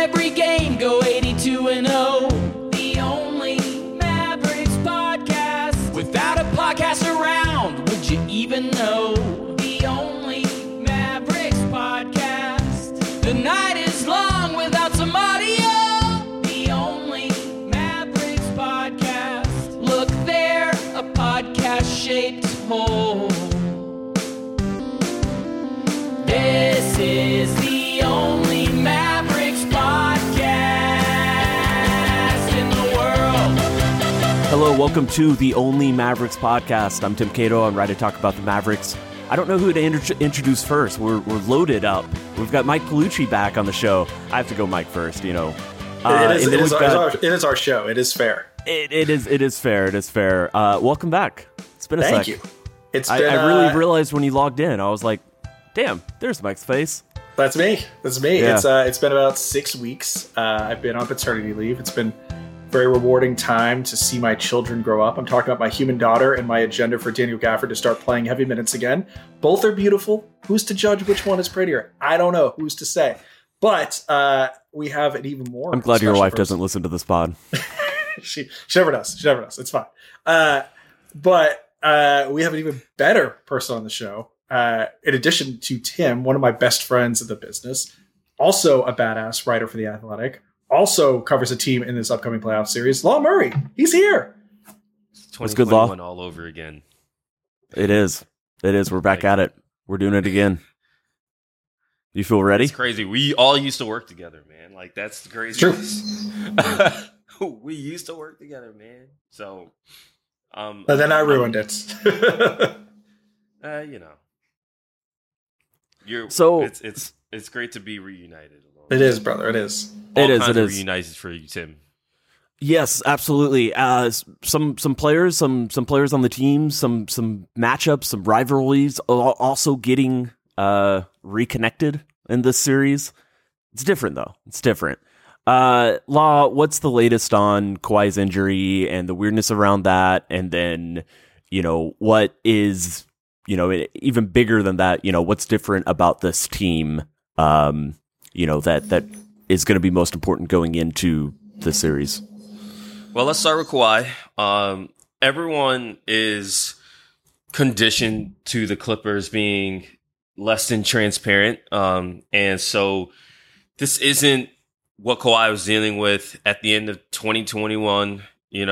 every game, go 82-0. The only Mavericks podcast. Without a podcast around, would you even know? The only Mavericks podcast. The night is long without some audio. The only Mavericks podcast. Look there, a podcast-shaped hole. This is the only Mavericks podcast in the world. Hello, welcome to the Only Mavericks podcast. I'm Tim Cato. I'm ready to talk about the Mavericks. I don't know who to introduce first. We're loaded up. We've got Mike Paolucci back on the show. I have to go Mike first, you know. It is our show. It is fair. It is fair. Welcome back. It's been a sec. Thank you. I really realized when you logged in, I was like, damn, there's Mike's face. That's me. Yeah. It's been about 6 weeks. I've been on paternity leave. It's been a very rewarding time to see my children grow up. I'm talking about my human daughter and my agenda for Daniel Gafford to start playing heavy minutes again. Both are beautiful. Who's to judge which one is prettier? I don't know. Who's to say? But we have an even more. I'm glad your wife doesn't listen to this pod. She never does. It's fine. But we have an even better person on the show. In addition to Tim, one of my best friends in the business, also a badass writer for The Athletic, also covers a team in this upcoming playoff series, Law Murray. He's here. What's good, Law? All over again. It is. We're back at it. We're doing it again. You feel ready? It's crazy. We all used to work together, man. Like, that's the crazy. True. We used to work together, man. So, but then I ruined it. You know. It's great to be reunited. It is, brother. It is. It is reunited for you, Tim. Yes, absolutely. Some players, some players on the team, some matchups, some rivalries, also getting reconnected in this series. It's different though. It's different. Law, what's the latest on Kawhi's injury and the weirdness around that? And then, what is, even bigger than that, what's different about this team, that is going to be most important going into the series? Well, let's start with Kawhi. Everyone is conditioned to the Clippers being less than transparent. And so this isn't what Kawhi was dealing with at the end of 2021,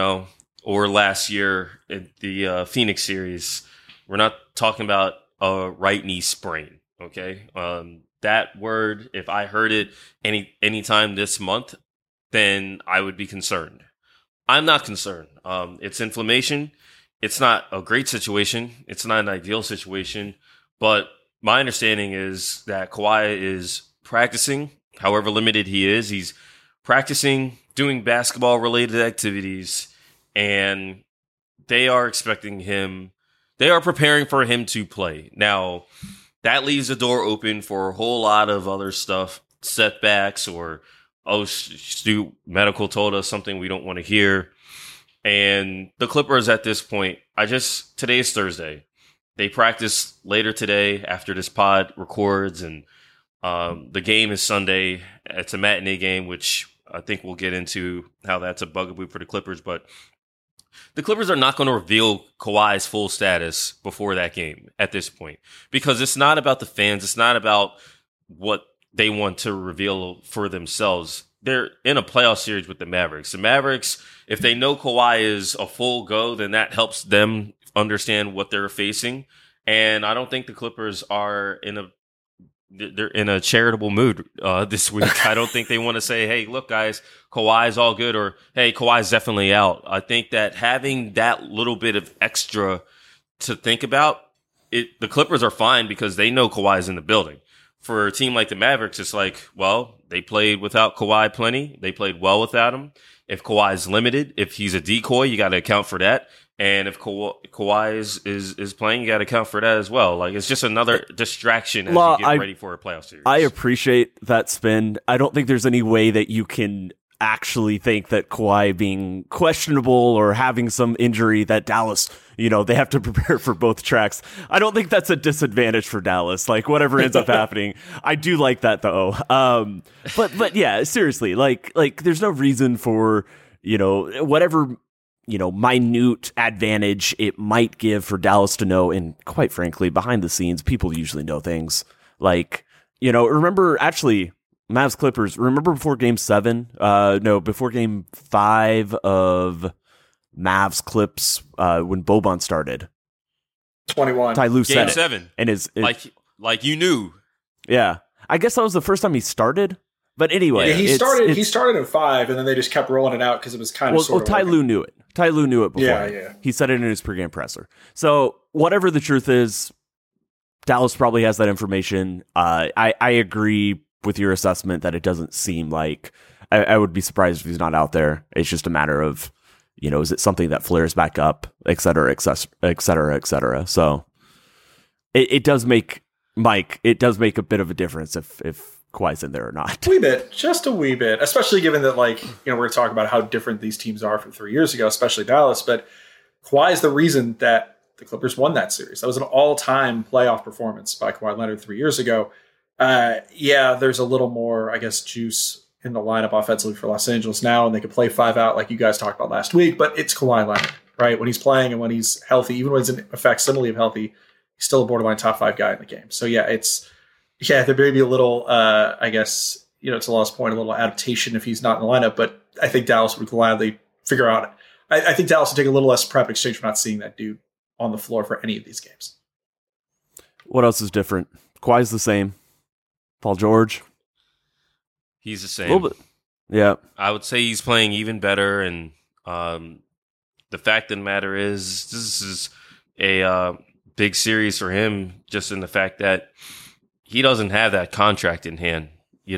or last year at the Phoenix series. We're not talking about a right knee sprain, okay? That word, if I heard it anytime this month, then I would be concerned. I'm not concerned. It's inflammation. It's not a great situation. It's not an ideal situation. But my understanding is that Kawhi is practicing, however limited he is. He's practicing, doing basketball-related activities, and they are expecting him. They are preparing for him to play. Now, that leaves the door open for a whole lot of other stuff, setbacks, or, Stu, medical told us something we don't want to hear. And the Clippers at this point, today's Thursday. They practice later today after this pod records, and the game is Sunday. It's a matinee game, which I think we'll get into how that's a bugaboo for the Clippers, but the Clippers are not going to reveal Kawhi's full status before that game at this point, because it's not about the fans. It's not about what they want to reveal for themselves. They're in a playoff series with the Mavericks. The Mavericks, if they know Kawhi is a full go, then that helps them understand what they're facing. And I don't think the Clippers are they're in a charitable mood this week. I don't think they want to say, hey, look, guys, Kawhi's all good, or hey, Kawhi's definitely out. I think that having that little bit of extra to think about, the Clippers are fine because they know Kawhi's in the building. For a team like the Mavericks, it's like, well, they played without Kawhi plenty. They played well without him. If Kawhi's limited, if he's a decoy, you got to account for that. And if Kawhi is playing, you got to account for that as well. Like, it's just another distraction as you get ready for a playoff series. I appreciate that spin. I don't think there's any way that you can actually think that Kawhi being questionable or having some injury that Dallas, they have to prepare for both tracks. I don't think that's a disadvantage for Dallas. Like whatever ends up happening, I do like that though. But yeah, seriously, like there's no reason for, whatever, minute advantage it might give for Dallas to know. And quite frankly, behind the scenes, people usually know things like, remember actually, Mavs Clippers. Remember before Game 7? Before Game 5 of Mavs Clips when Boban started. 21. Ty Lue said Game it. 7. And like you knew. Yeah, I guess that was the first time he started. But anyway, yeah, he started in 5, and then they just kept rolling it out because it was kind of sort of. Ty Lue knew it. Ty Lue knew it before. Yeah. He said it in his pregame presser. So whatever the truth is, Dallas probably has that information. I agree with your assessment that it doesn't seem like I would be surprised if he's not out there. It's just a matter of, is it something that flares back up, et cetera, et cetera, et cetera. So it does make a bit of a difference if Kawhi's in there or not. A wee bit, just a wee bit, especially given that we're talking about how different these teams are from 3 years ago, especially Dallas. But Kawhi is the reason that the Clippers won that series. That was an all-time playoff performance by Kawhi Leonard 3 years ago. There's a little more, I guess, juice in the lineup offensively for Los Angeles now, and they could play 5 out like you guys talked about last week, but it's Kawhi Leonard, right? When he's playing and when he's healthy, even when he's in a facsimile of healthy, he's still a borderline top 5 guy in the game. So there may be a little, I guess, to Law's point, a little adaptation if he's not in the lineup, but I think Dallas would gladly figure out. I think Dallas would take a little less prep in exchange for not seeing that dude on the floor for any of these games. What else is different? Kawhi's the same. Paul George, he's the same. A little bit. Yeah, I would say he's playing even better, and the fact of the matter is, this is a big series for him. Just in the fact that he doesn't have that contract in hand.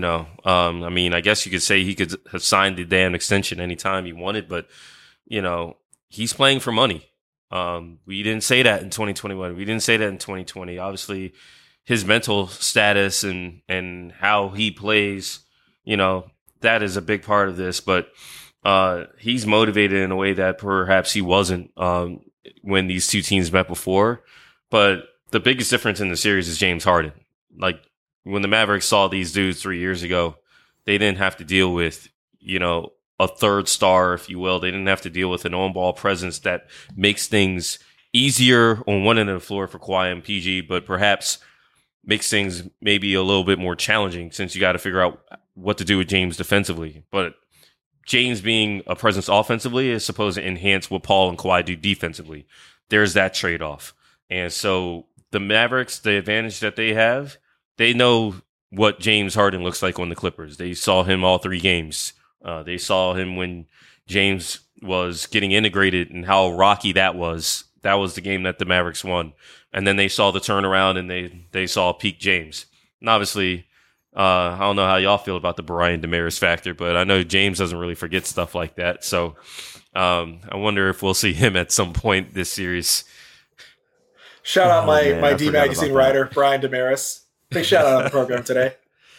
I guess you could say he could have signed the damn extension anytime he wanted, but he's playing for money. We didn't say that in 2021. We didn't say that in 2020. Obviously, his mental status and how he plays, that is a big part of this. But he's motivated in a way that perhaps he wasn't when these two teams met before. But the biggest difference in the series is James Harden. Like when the Mavericks saw these dudes 3 years ago, they didn't have to deal with, a third star, if you will. They didn't have to deal with an on-ball presence that makes things easier on one end of the floor for Kawhi and PG, but perhaps makes things maybe a little bit more challenging since you got to figure out what to do with James defensively. But James being a presence offensively is supposed to enhance what Paul and Kawhi do defensively. There's that trade-off. And so the Mavericks, the advantage that they have, they know what James Harden looks like on the Clippers. They saw him all 3 games. They saw him when James was getting integrated and how rocky that was. That was the game that the Mavericks won. And then they saw the turnaround and they saw peak James. And obviously, I don't know how y'all feel about the Brian Damaris factor, but I know James doesn't really forget stuff like that. So I wonder if we'll see him at some point this series. Shout out my D Magazine writer, Brian Damaris. Big shout out on the program today.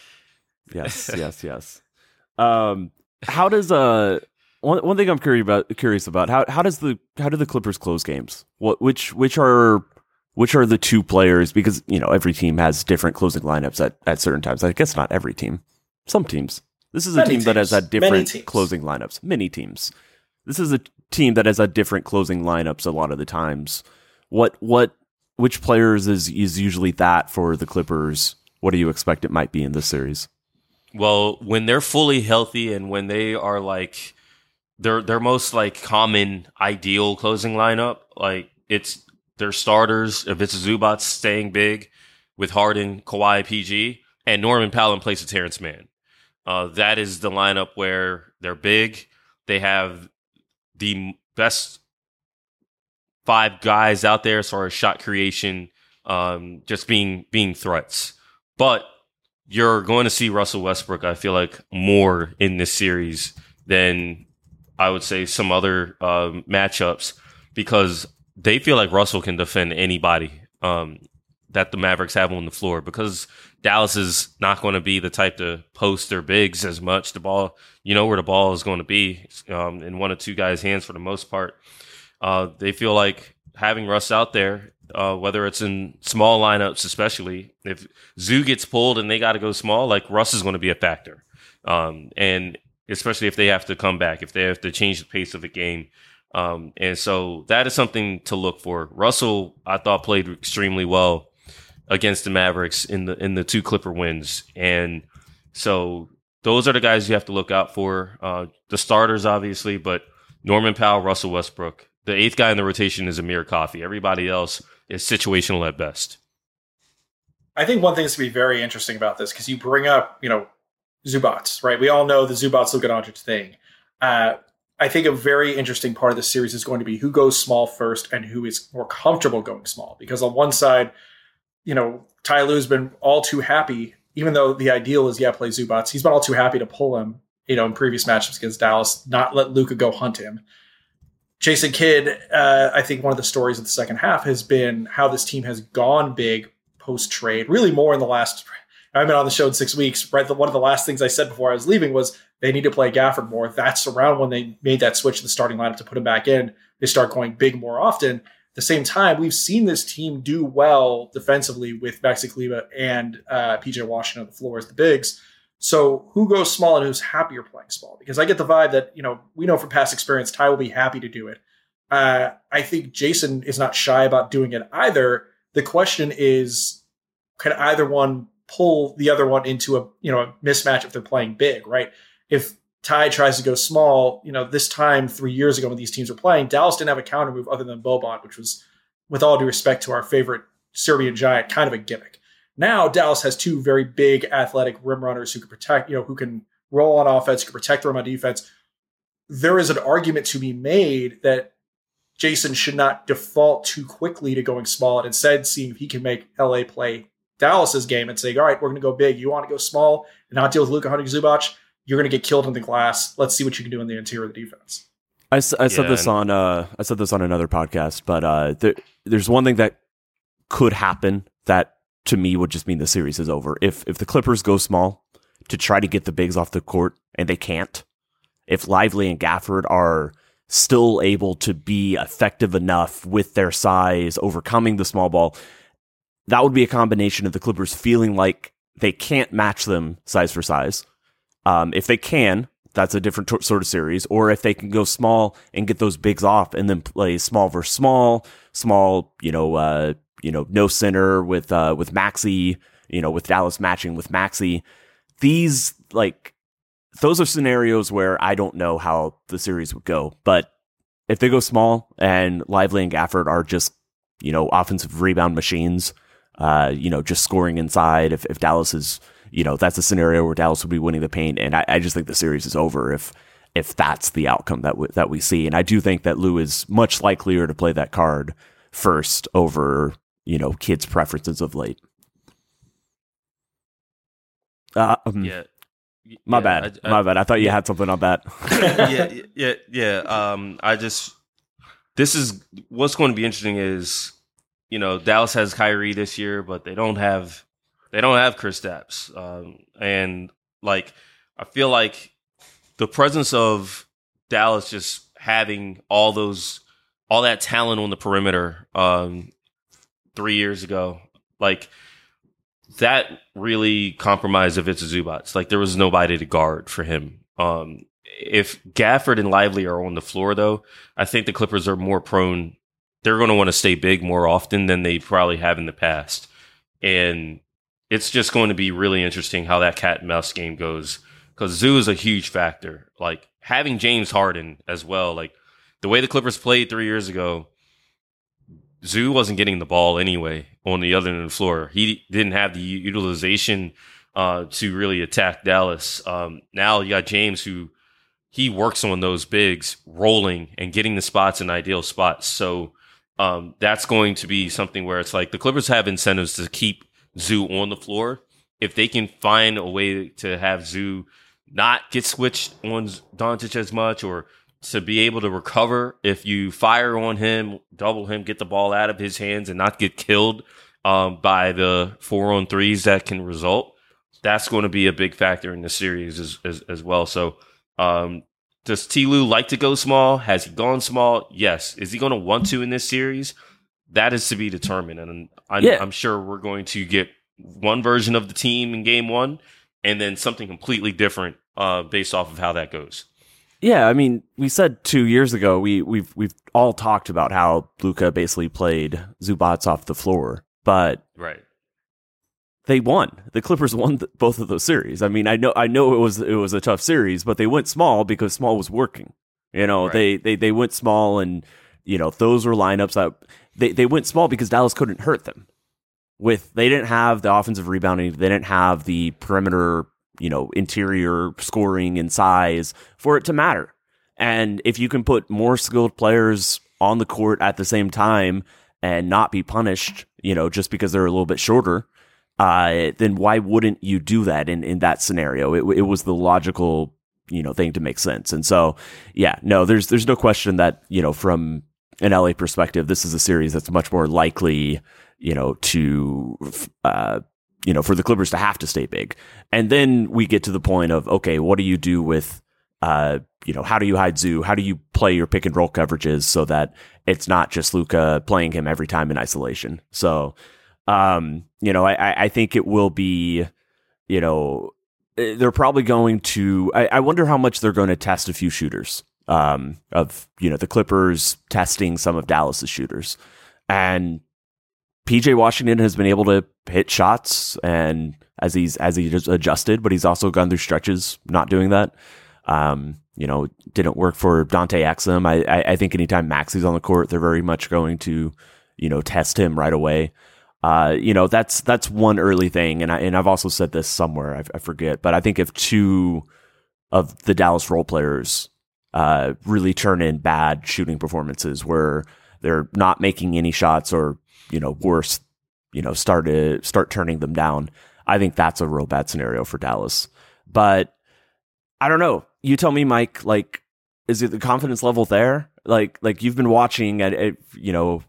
Yes. How does one thing I'm curious about how do the Clippers close games? Which are the 2 players? Because every team has different closing lineups at certain times. I guess not every team. Some teams. This is a team that has had different closing lineups. Many teams. This is a team that has had different closing lineups a lot of the times. Which players is usually that for the Clippers? What do you expect it might be in this series? Well, when they're fully healthy and when they are like their most like common ideal closing lineup, like it's their starters. If it's Zubac staying big with Harden, Kawhi, PG, and Norman Powell in place of Terrence Mann. That is the lineup where they're big. They have the best 5 guys out there as far as shot creation, just being threats. But you're going to see Russell Westbrook, I feel like, more in this series than I would say some other matchups, because they feel like Russell can defend anybody that the Mavericks have on the floor, because Dallas is not going to be the type to post their bigs as much. The ball, you know where the ball is going to be in one or two guys' hands for the most part. They feel like having Russ out there, whether it's in small lineups, especially if Zoo gets pulled and they got to go small, like Russ is going to be a factor. And especially if they have to come back, if they have to change the pace of the game. And so that is something to look for. Russell, I thought, played extremely well against the Mavericks in the 2 Clipper wins. And so those are the guys you have to look out for. The starters, obviously, but Norman Powell, Russell Westbrook. The 8th guy in the rotation is Amir Coffey. Everybody else is situational at best. I think one thing that's going to be very interesting about this, because you bring up, Zubats, right? We all know the Zubats Luka Doncic thing. I think a very interesting part of the series is going to be who goes small first and who is more comfortable going small. Because on one side, Ty Lue's been all too happy, even though the ideal is, play Zubats. He's been all too happy to pull him, in previous matchups against Dallas, not let Luka go hunt him. Jason Kidd, I think one of the stories of the second half has been how this team has gone big post-trade, really more in the last... I've been on the show in 6 weeks. Right, one of the last things I said before I was leaving was they need to play Gafford more. That's around when they made that switch to the starting lineup to put him back in. They start going big more often. At the same time, we've seen this team do well defensively with Maxi Kleber and PJ Washington on the floor as the bigs. So who goes small and who's happier playing small? Because I get the vibe that, we know from past experience, Ty will be happy to do it. I think Jason is not shy about doing it either. The question is, can either one pull the other one into a mismatch if they're playing big, right? If Ty tries to go small, this time 3 years ago when these teams were playing, Dallas didn't have a counter move other than Boban, which was, with all due respect to our favorite Serbian giant, kind of a gimmick. Now Dallas has 2 very big athletic rim runners who can protect, who can roll on offense, who can protect the rim on defense. There is an argument to be made that Jason should not default too quickly to going small and instead seeing if he can make LA play Dallas's game and say, all right, we're going to go big. You want to go small and not deal with Luka hunting Zubac? You're going to get killed in the glass. Let's see what you can do in the interior of the defense. I said this on another podcast, but there's one thing that could happen that to me would just mean the series is over. If the Clippers go small to try to get the bigs off the court and they can't, if Lively and Gafford are still able to be effective enough with their size, overcoming the small ball, that would be a combination of the Clippers feeling like they can't match them size for size. If they can, that's a different sort of series. Or if they can go small and get those bigs off and then play small versus small, no center with Maxey, with Dallas matching with Maxey. Those are scenarios where I don't know how the series would go. But if they go small and Lively and Gafford are just, offensive rebound machines, just scoring inside, if Dallas is, that's a scenario where Dallas would be winning the paint. And I just think the series is over if that's the outcome that we see. And I do think that Lue is much likelier to play that card first over, Kidd's preferences of late. My bad. I thought you had something on that. This is what's going to be interesting is, Dallas has Kyrie this year, but they don't have Kristaps. And I feel like the presence of Dallas just having all that talent on the perimeter 3 years ago, that really compromised Ivica Zubac. There was nobody to guard for him. If Gafford and Lively are on the floor, though, I think the Clippers are more prone. They're going to want to stay big more often than they probably have in the past. And it's just going to be really interesting how that cat and mouse game goes, because Zoo is a huge factor. Having James Harden as well, the way the Clippers played 3 years ago, Zoo wasn't getting the ball anyway on the other end of the floor. He didn't have the utilization to really attack Dallas. Now you got James, who he works on those bigs rolling and getting the spots in ideal spots. So that's going to be something where it's the Clippers have incentives to keep Zoo on the floor. If they can find a way to have Zoo not get switched on Doncic as much, or to be able to recover if you fire on him, double him, get the ball out of his hands and not get killed by the 4-on-3s that can result. That's going to be a big factor in the series as well. So, does Ty Lue like to go small? Has he gone small? Yes. Is he going to want to in this series? That is to be determined. And I'm sure we're going to get one version of the team in game one and then something completely different based off of how that goes. Yeah, I mean, we said 2 years ago, we've all talked about how Luka basically played Zubac off the floor, but right. They won. The Clippers won both of those series. I mean, I know it was a tough series, but they went small because small was working. You know, right. they went small, and you know those were lineups that they went small because Dallas couldn't hurt them. They didn't have the offensive rebounding, they didn't have the perimeter, you know, interior scoring and size for it to matter. And if you can put more skilled players on the court at the same time and not be punished, you know, just because they're a little bit shorter. Then why wouldn't you do that in that scenario? It was the logical, you know, thing to make sense. And so, yeah, no, there's no question that, you know, from an LA perspective, this is a series that's much more likely, you know, to, you know, for the Clippers to have to stay big. And then we get to the point of, okay, what do you do with, you know, how do you hide Zoo? How do you play your pick and roll coverages so that it's not just Luka playing him every time in isolation? So, you know, I think it will be, you know, they're probably going to, I wonder how much they're going to test a few shooters, of, you know, the Clippers testing some of Dallas's shooters. And PJ Washington has been able to hit shots and as he's just adjusted, but he's also gone through stretches not doing that. You know, didn't work for Dante Exum. I think anytime Maxi's on the court, they're very much going to, you know, test him right away. You know, that's one early thing. And I've also said this somewhere, I forget, but I think if two of the Dallas role players, really turn in bad shooting performances where they're not making any shots or, you know, worse, you know, start turning them down, I think that's a real bad scenario for Dallas. But I don't know. You tell me, Mike, like, is it the confidence level there? Like you've been watching at you know,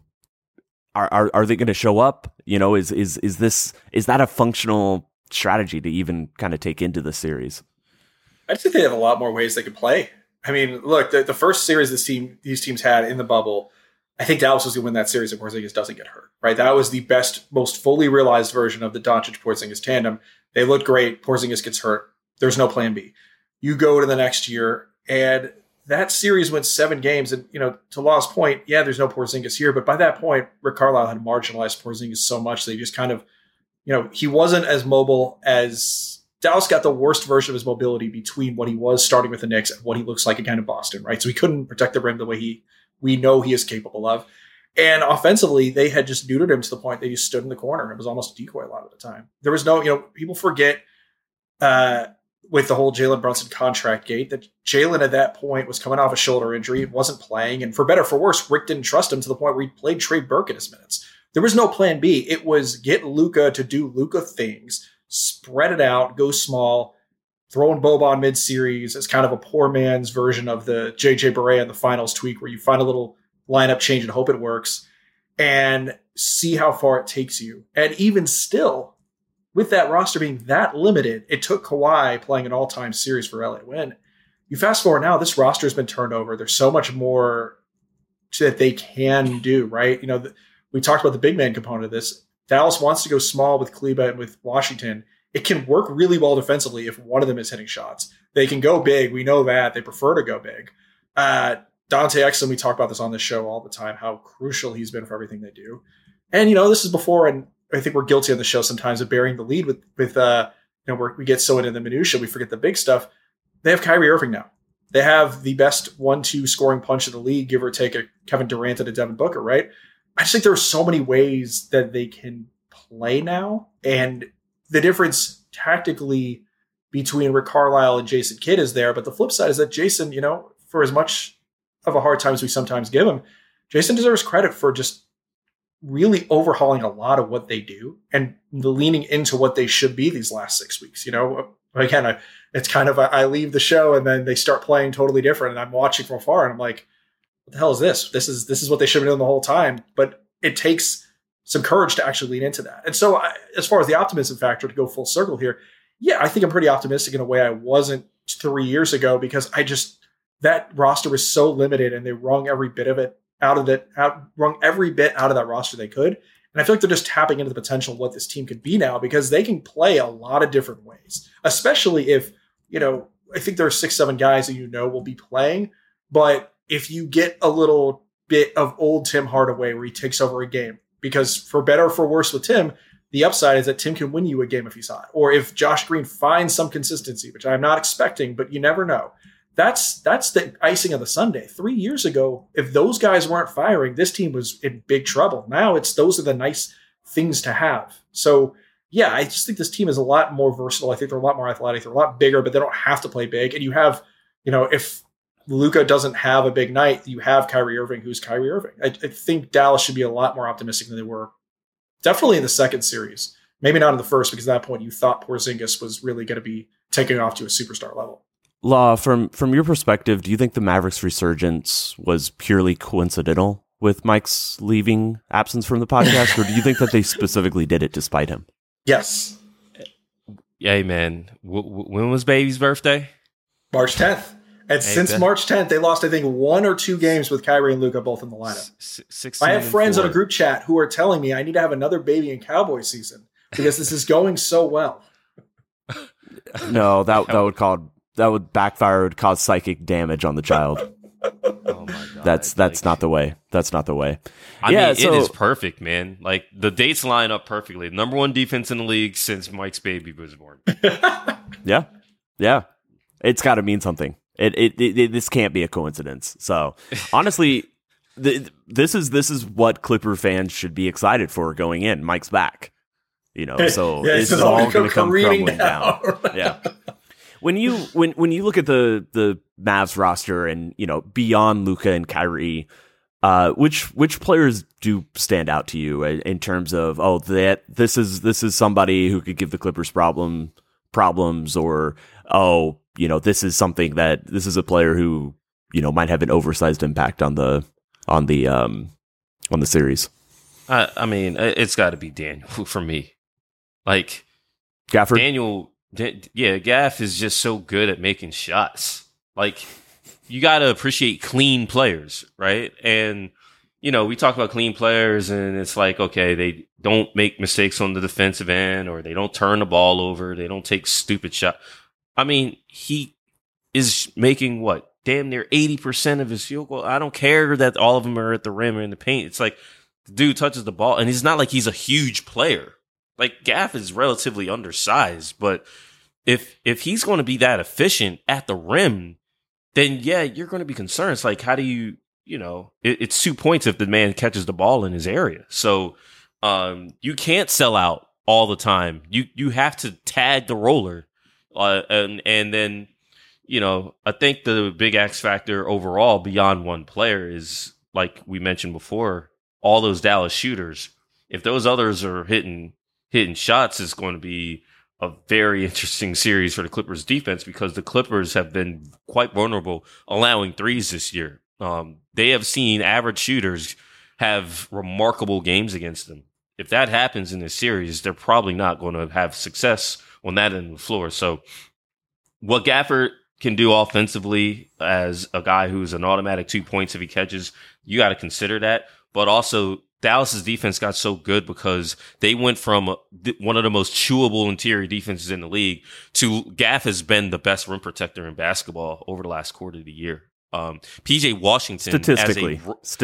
Are they going to show up? You know, is that a functional strategy to even kind of take into the series? I just think they have a lot more ways they could play. I mean, look, the first series these teams had in the bubble, I think Dallas was going to win that series if Porzingis doesn't get hurt. Right, that was the best, most fully realized version of the Doncic-Porzingis tandem. They look great. Porzingis gets hurt. There's no plan B. You go to the next year, and that series went 7 games, and, you know, to Law's point, yeah, there's no Porzingis here, but by that point, Rick Carlisle had marginalized Porzingis so much that he just kind of, you know, he wasn't as mobile as Dallas got the worst version of his mobility between what he was starting with the Knicks and what he looks like again in Boston, right? So he couldn't protect the rim the way we know he is capable of. And offensively, they had just neutered him to the point that he stood in the corner. It was almost a decoy a lot of the time. There was no, you know, people forget, with the whole Jalen Brunson contract gate, that Jalen at that point was coming off a shoulder injury, wasn't playing, and for better or for worse, Rick didn't trust him to the point where he played Trey Burke in his minutes. There was no plan B. It was get Luka to do Luka things, spread it out, go small, throwing Boban mid-series as kind of a poor man's version of the JJ Barea in the finals tweak, where you find a little lineup change and hope it works, and see how far it takes you. And even still, with that roster being that limited, it took Kawhi playing an all-time series for LA to win. You fast forward now, this roster has been turned over. There's so much more that they can do, right? You know, we talked about the big man component of this. Dallas wants to go small with Kleba and with Washington. It can work really well defensively if one of them is hitting shots. They can go big. We know that. They prefer to go big. Dante Exum, we talk about this on this show all the time, how crucial he's been for everything they do. And, you know, this is before, and I think we're guilty on the show sometimes of burying the lead with you know, where we get so into the minutia, we forget the big stuff. They have Kyrie Irving now. They have the best 1-2 scoring punch of the league, give or take a Kevin Durant and a Devin Booker, right? I just think there are so many ways that they can play now. And the difference tactically between Rick Carlisle and Jason Kidd is there. But the flip side is that Jason, you know, for as much of a hard time as we sometimes give him, Jason deserves credit for just really overhauling a lot of what they do and the leaning into what they should be these last 6 weeks. You know, again, it's kind of, I leave the show and then they start playing totally different. And I'm watching from afar and I'm like, what the hell is this? This is what they should have been doing the whole time. But it takes some courage to actually lean into that. And so as far as the optimism factor, to go full circle here, yeah, I think I'm pretty optimistic in a way I wasn't 3 years ago, because that roster was so limited and they wrung every bit of it wrung every bit out of that roster they could. And I feel like they're just tapping into the potential of what this team could be now, because they can play a lot of different ways, especially if, I think there are 6-7 guys that will be playing. But if you get a little bit of old Tim Hardaway where he takes over a game, because for better or for worse with Tim, the upside is that Tim can win you a game if he's hot. Or if Josh Green finds some consistency, which I'm not expecting, but you never know. That's the icing of the sundae. 3 years ago, if those guys weren't firing, this team was in big trouble. Now those are the nice things to have. So yeah, I just think this team is a lot more versatile. I think they're a lot more athletic. They're a lot bigger, but they don't have to play big. And you have, if Luka doesn't have a big night, you have Kyrie Irving, who's Kyrie Irving. I think Dallas should be a lot more optimistic than they were. Definitely in the second series. Maybe not in the first, because at that point you thought Porzingis was really going to be taking off to a superstar level. Law, from your perspective, do you think the Mavericks' resurgence was purely coincidental with Mike's leaving absence from the podcast, or do you think that they specifically did it despite him? Yes. Hey, man. When was Baby's birthday? March 10th. And since March 10th, they lost, I think, 1 or 2 games with Kyrie and Luka both in the lineup. I have friends on a group chat who are telling me I need to have another Baby and Cowboy season because this is going so well. No, that would backfire. It would cause psychic damage on the child. Oh my God. That's not the way. That's not the way. I mean, it is perfect, man. Like, the dates line up perfectly. Number 1 defense in the league since Mike's baby was born. Yeah. It's got to mean something. This can't be a coincidence. So honestly, this is what Clipper fans should be excited for going in. Mike's back. So it's all going to come crumbling down. Yeah. When you look at the Mavs roster and beyond Luka and Kyrie, which players do stand out to you in terms of this is somebody who could give the Clippers problems, or this is something this is a player who might have an oversized impact on the series? I mean, it's got to be Daniel for me. Like, Gafford? Gaff is just so good at making shots. Like, you got to appreciate clean players, right? And, we talk about clean players and it's like, okay, they don't make mistakes on the defensive end, or they don't turn the ball over. They don't take stupid shots. I mean, he is making damn near 80% of his field goal. I don't care that all of them are at the rim or in the paint. It's like the dude touches the ball and it's not like he's a huge player. Like, Gaff is relatively undersized, but if he's going to be that efficient at the rim, then yeah, you're going to be concerned. It's like, how do you, it's 2 points if the man catches the ball in his area. So you can't sell out all the time. You have to tag the roller, and then I think the big X factor overall beyond one player is, like we mentioned before, all those Dallas shooters. If those others are hitting shots, is going to be a very interesting series for the Clippers defense, because the Clippers have been quite vulnerable allowing threes this year. They have seen average shooters have remarkable games against them. If that happens in this series, they're probably not going to have success on that end of the floor. So what Gafford can do offensively as a guy who's an automatic 2 points if he catches, you got to consider that. But also, Dallas's defense got so good because they went from one of the most chewable interior defenses in the league to Gaff has been the best rim protector in basketball over the last quarter of the year. PJ Washington, statistically,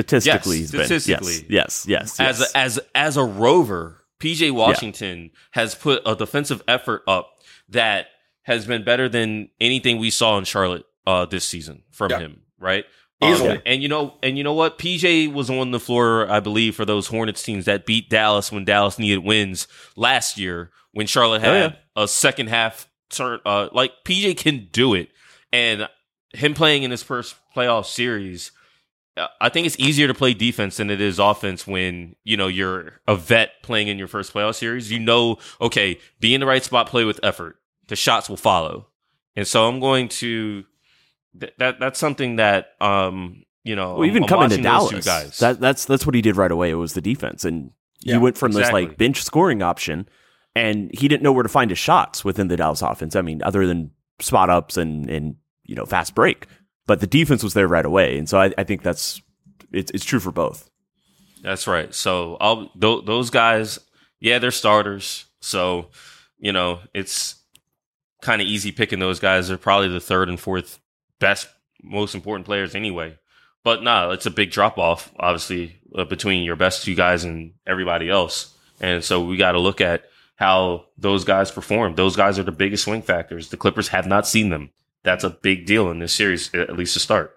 yes. As a rover, PJ Washington has put a defensive effort up that has been better than anything we saw in Charlotte this season from him, right? And you know what? PJ was on the floor, I believe, for those Hornets teams that beat Dallas when Dallas needed wins last year, when Charlotte had a second half turn. Like, PJ can do it, and him playing in his first playoff series, I think it's easier to play defense than it is offense when you're a vet playing in your first playoff series. Okay, be in the right spot, play with effort. The shots will follow, and so I'm going to. That's something that well, even coming to Dallas, that's what he did right away. It was the defense, and He went from this exactly. like bench scoring option, and he didn't know where to find his shots within the Dallas offense. I mean, other than spot ups and fast break, but the defense was there right away, and so I think it's true for both. That's right. So those guys, they're starters. So it's kind of easy picking those guys. They're probably the third and fourth best, most important players anyway. But it's a big drop off, obviously, between your best two guys and everybody else. And so we got to look at how those guys perform. Those guys are the biggest swing factors. The Clippers have not seen them. That's a big deal in this series, at least to start.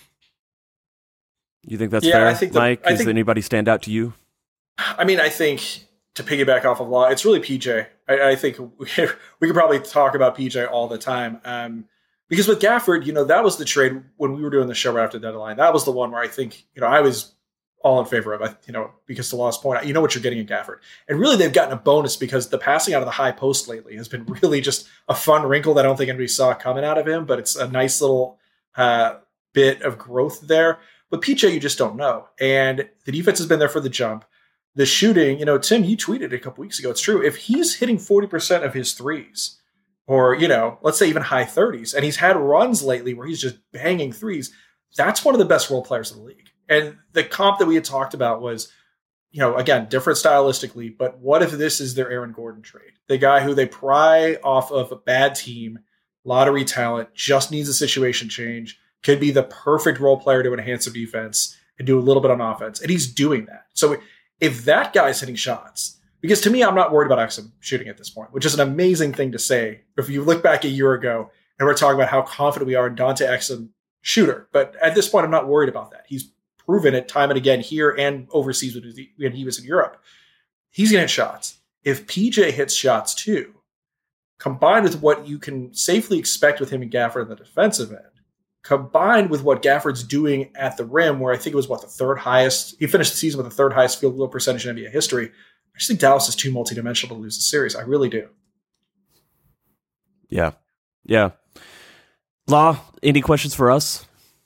You think that's fair, Mike? Does anybody stand out to you? I mean, I think to piggyback off of Law, it's really PJ. I think we could probably talk about PJ all the time. Because with Gafford, that was the trade when we were doing the show right after the deadline. That was the one where I think, I was all in favor of, because to Law's point, you know what you're getting in Gafford. And really they've gotten a bonus because the passing out of the high post lately has been really just a fun wrinkle that I don't think anybody saw coming out of him, but it's a nice little bit of growth there. But PJ, you just don't know. And the defense has been there for the jump. The shooting, Tim, you tweeted a couple weeks ago. It's true. If he's hitting 40% of his threes, or, let's say even high 30s, and he's had runs lately where he's just banging threes, that's one of the best role players in the league. And the comp that we had talked about was, again, different stylistically, but what if this is their Aaron Gordon trade? The guy who they pry off of a bad team, lottery talent, just needs a situation change, could be the perfect role player to enhance their defense and do a little bit on offense. And he's doing that. So if that guy's hitting shots, because to me, I'm not worried about Exum shooting at this point, which is an amazing thing to say. If you look back a year ago and we're talking about how confident we are in Dante Exum shooter, but at this point, I'm not worried about that. He's proven it time and again here and overseas when he was in Europe. He's going to hit shots. If PJ hits shots too, combined with what you can safely expect with him and Gafford in the defensive end, combined with what Gafford's doing at the rim, where I think it was the third highest, he finished the season with the third highest field goal percentage in NBA history. I just think Dallas is too multidimensional to lose the series. I really do. Yeah. Law, any questions for us?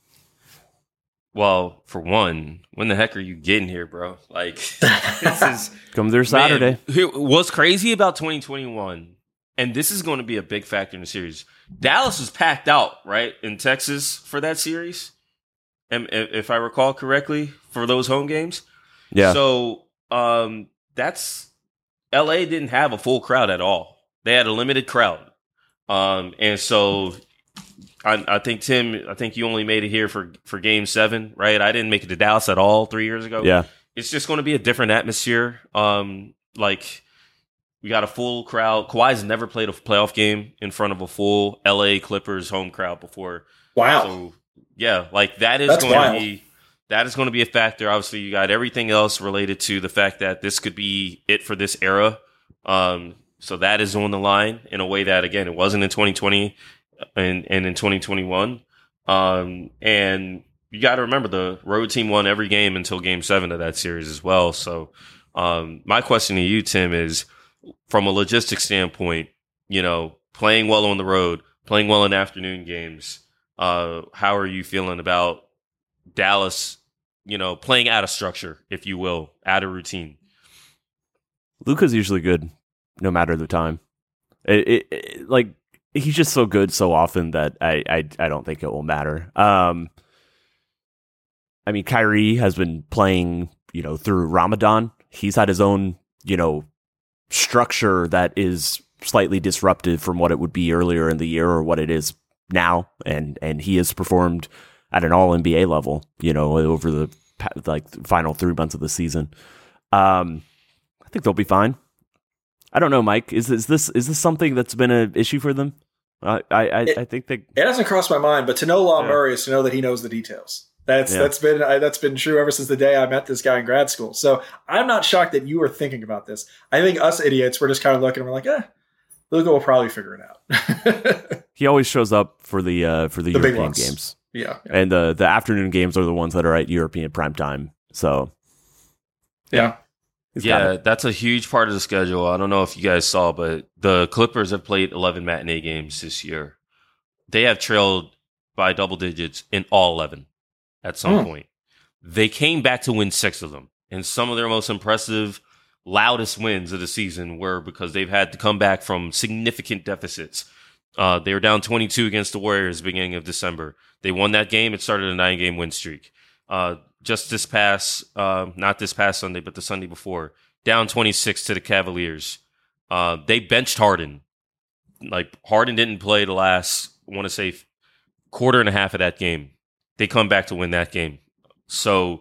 Well, for one, when the heck are you getting here, bro? Like, this is come there Saturday. Man, what's crazy about 2021, and this is going to be a big factor in the series. Dallas was packed out, right, in Texas for that series, and if I recall correctly, for those home games. Yeah. So, that's LA didn't have a full crowd at all. They had a limited crowd, and so. I think, Tim, you only made it here for Game 7, right? I didn't make it to Dallas at all 3 years ago. Yeah. It's just going to be a different atmosphere. Like, we got a full crowd. Kawhi's never played a playoff game in front of a full LA Clippers home crowd before. Wow. So, yeah, like that is going to be a factor. Obviously, you got everything else related to the fact that this could be it for this era. So that is on the line in a way that, again, it wasn't in 2020. And in 2021. And you got to remember the road team won every game until Game 7 of that series as well. So my question to you, Tim, is from a logistics standpoint, playing well on the road, playing well in afternoon games, how are you feeling about Dallas, playing out of structure, if you will, out of routine? Luka's usually good no matter the time. He's just so good so often that I don't think it will matter. I mean, Kyrie has been playing, through Ramadan. He's had his own, structure that is slightly disruptive from what it would be earlier in the year or what it is now. And he has performed at an all NBA level, over the final 3 months of the season. I think they'll be fine. I don't know, Mike. Is this something that's been an issue for them? I think it hasn't crossed my mind, but to know Law Murray is to know that he knows the details. That's been true ever since the day I met this guy in grad school. So I'm not shocked that you were thinking about this. I think us idiots were just kind of looking and we're like, Luka will probably figure it out. He always shows up for the European games. Yeah. And the afternoon games are the ones that are at European primetime. So yeah. That's a huge part of the schedule. I don't know if you guys saw, but the Clippers have played 11 matinee games this year. They have trailed by double digits in all 11 at some point. They came back to win 6 of them. And some of their most impressive loudest wins of the season were because they've had to come back from significant deficits. They were down 22 against the Warriors beginning of December. They won that game. It started a 9-game win streak. Just this past, not this past Sunday, but the Sunday before, down 26 to the Cavaliers. They benched Harden. Like, Harden didn't play the last, I want to say, quarter and a half of that game. They come back to win that game. So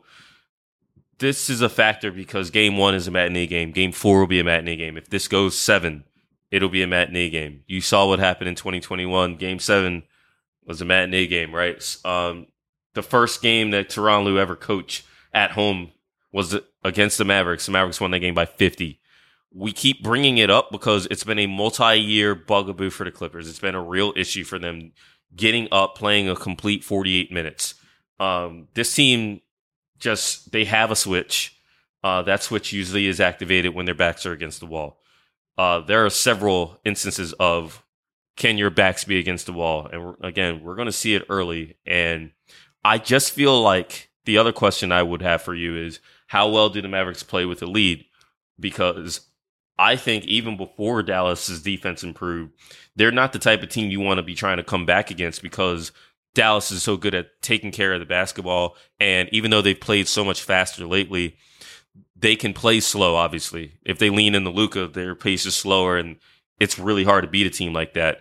this is a factor because game 1 is a matinee game. Game 4 will be a matinee game. If this goes 7, it'll be a matinee game. You saw what happened in 2021. Game 7 was a matinee game, right? The first game that Tyronn Lue ever coached at home was against the Mavericks. The Mavericks won that game by 50. We keep bringing it up because it's been a multi-year bugaboo for the Clippers. It's been a real issue for them getting up, playing a complete 48 minutes. This team they have a switch. That switch usually is activated when their backs are against the wall. There are several instances of, can your backs be against the wall? And again, we're going to see it early. And I just feel like the other question I would have for you is, how well do the Mavericks play with the lead? Because I think even before Dallas's defense improved, they're not the type of team you want to be trying to come back against because Dallas is so good at taking care of the basketball. And even though they've played so much faster lately, they can play slow, obviously. If they lean into Luka, their pace is slower, and it's really hard to beat a team like that.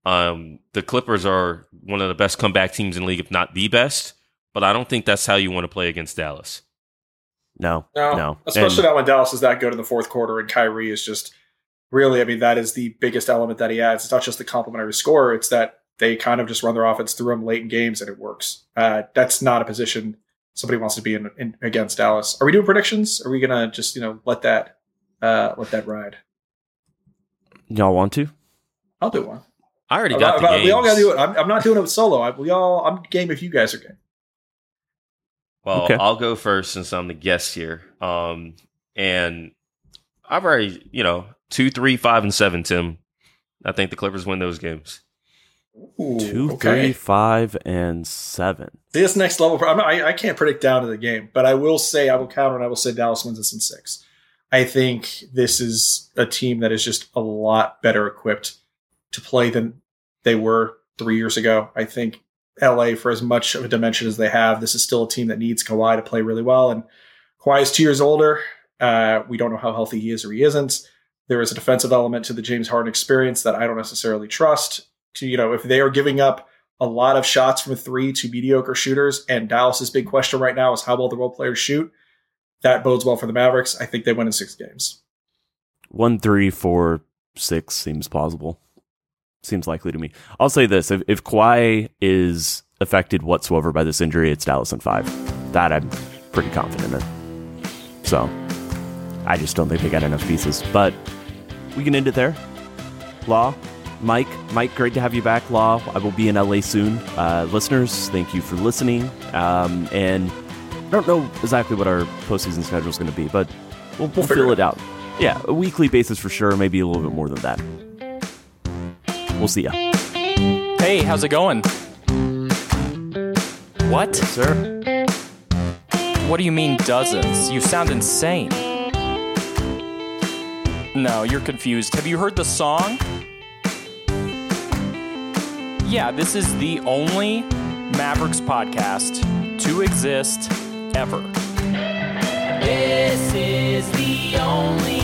The Clippers are one of the best comeback teams in the league, if not the best. But I don't think that's how you want to play against Dallas. No. Especially not when Dallas is that good in the fourth quarter and Kyrie is just really, I mean, that is the biggest element that he adds. It's not just the complimentary scorer. It's that they kind of just run their offense through him late in games and it works. That's not a position somebody wants to be in against Dallas. Are we doing predictions? Are we going to just, let that ride? Y'all want to? I'll do one. I already got the games. We all got to do it. I'm not doing it solo. I'm game if you guys are game. Well, okay. I'll go first since I'm the guest here. And I've already, 2, 3, 5, and 7, Tim. I think the Clippers win those games. Ooh, 2, okay. 3, 5, and 7. This next level, I can't predict down to the game, but I will counter and I will say Dallas wins this in 6. I think this is a team that is just a lot better equipped to play than they were 3 years ago. I think LA, for as much of a dimension as they have, this is still a team that needs Kawhi to play really well. And Kawhi is 2 years older. We don't know how healthy he is or he isn't. There is a defensive element to the James Harden experience that I don't necessarily trust. If they are giving up a lot of shots from 3 to mediocre shooters, and Dallas's big question right now is how well the role players shoot, that bodes well for the Mavericks. I think they win in 6 games. 1, 3, 4, 6 seems plausible. Seems likely to me. I'll say this. If Kawhi is affected whatsoever by this injury, it's Dallas in 5. That I'm pretty confident in. So I just don't think they got enough pieces. But we can end it there. Law, Mike, great to have you back. Law, I will be in LA soon. Listeners, thank you for listening. And I don't know exactly what our postseason schedule is going to be, but we'll fill it out. Yeah, a weekly basis for sure. Maybe a little bit more than that. We'll see ya. Hey, how's it going? What? Sir? What do you mean dozens? You sound insane. No, you're confused. Have you heard the song? Yeah, this is the only Mavericks podcast to exist ever. This is the only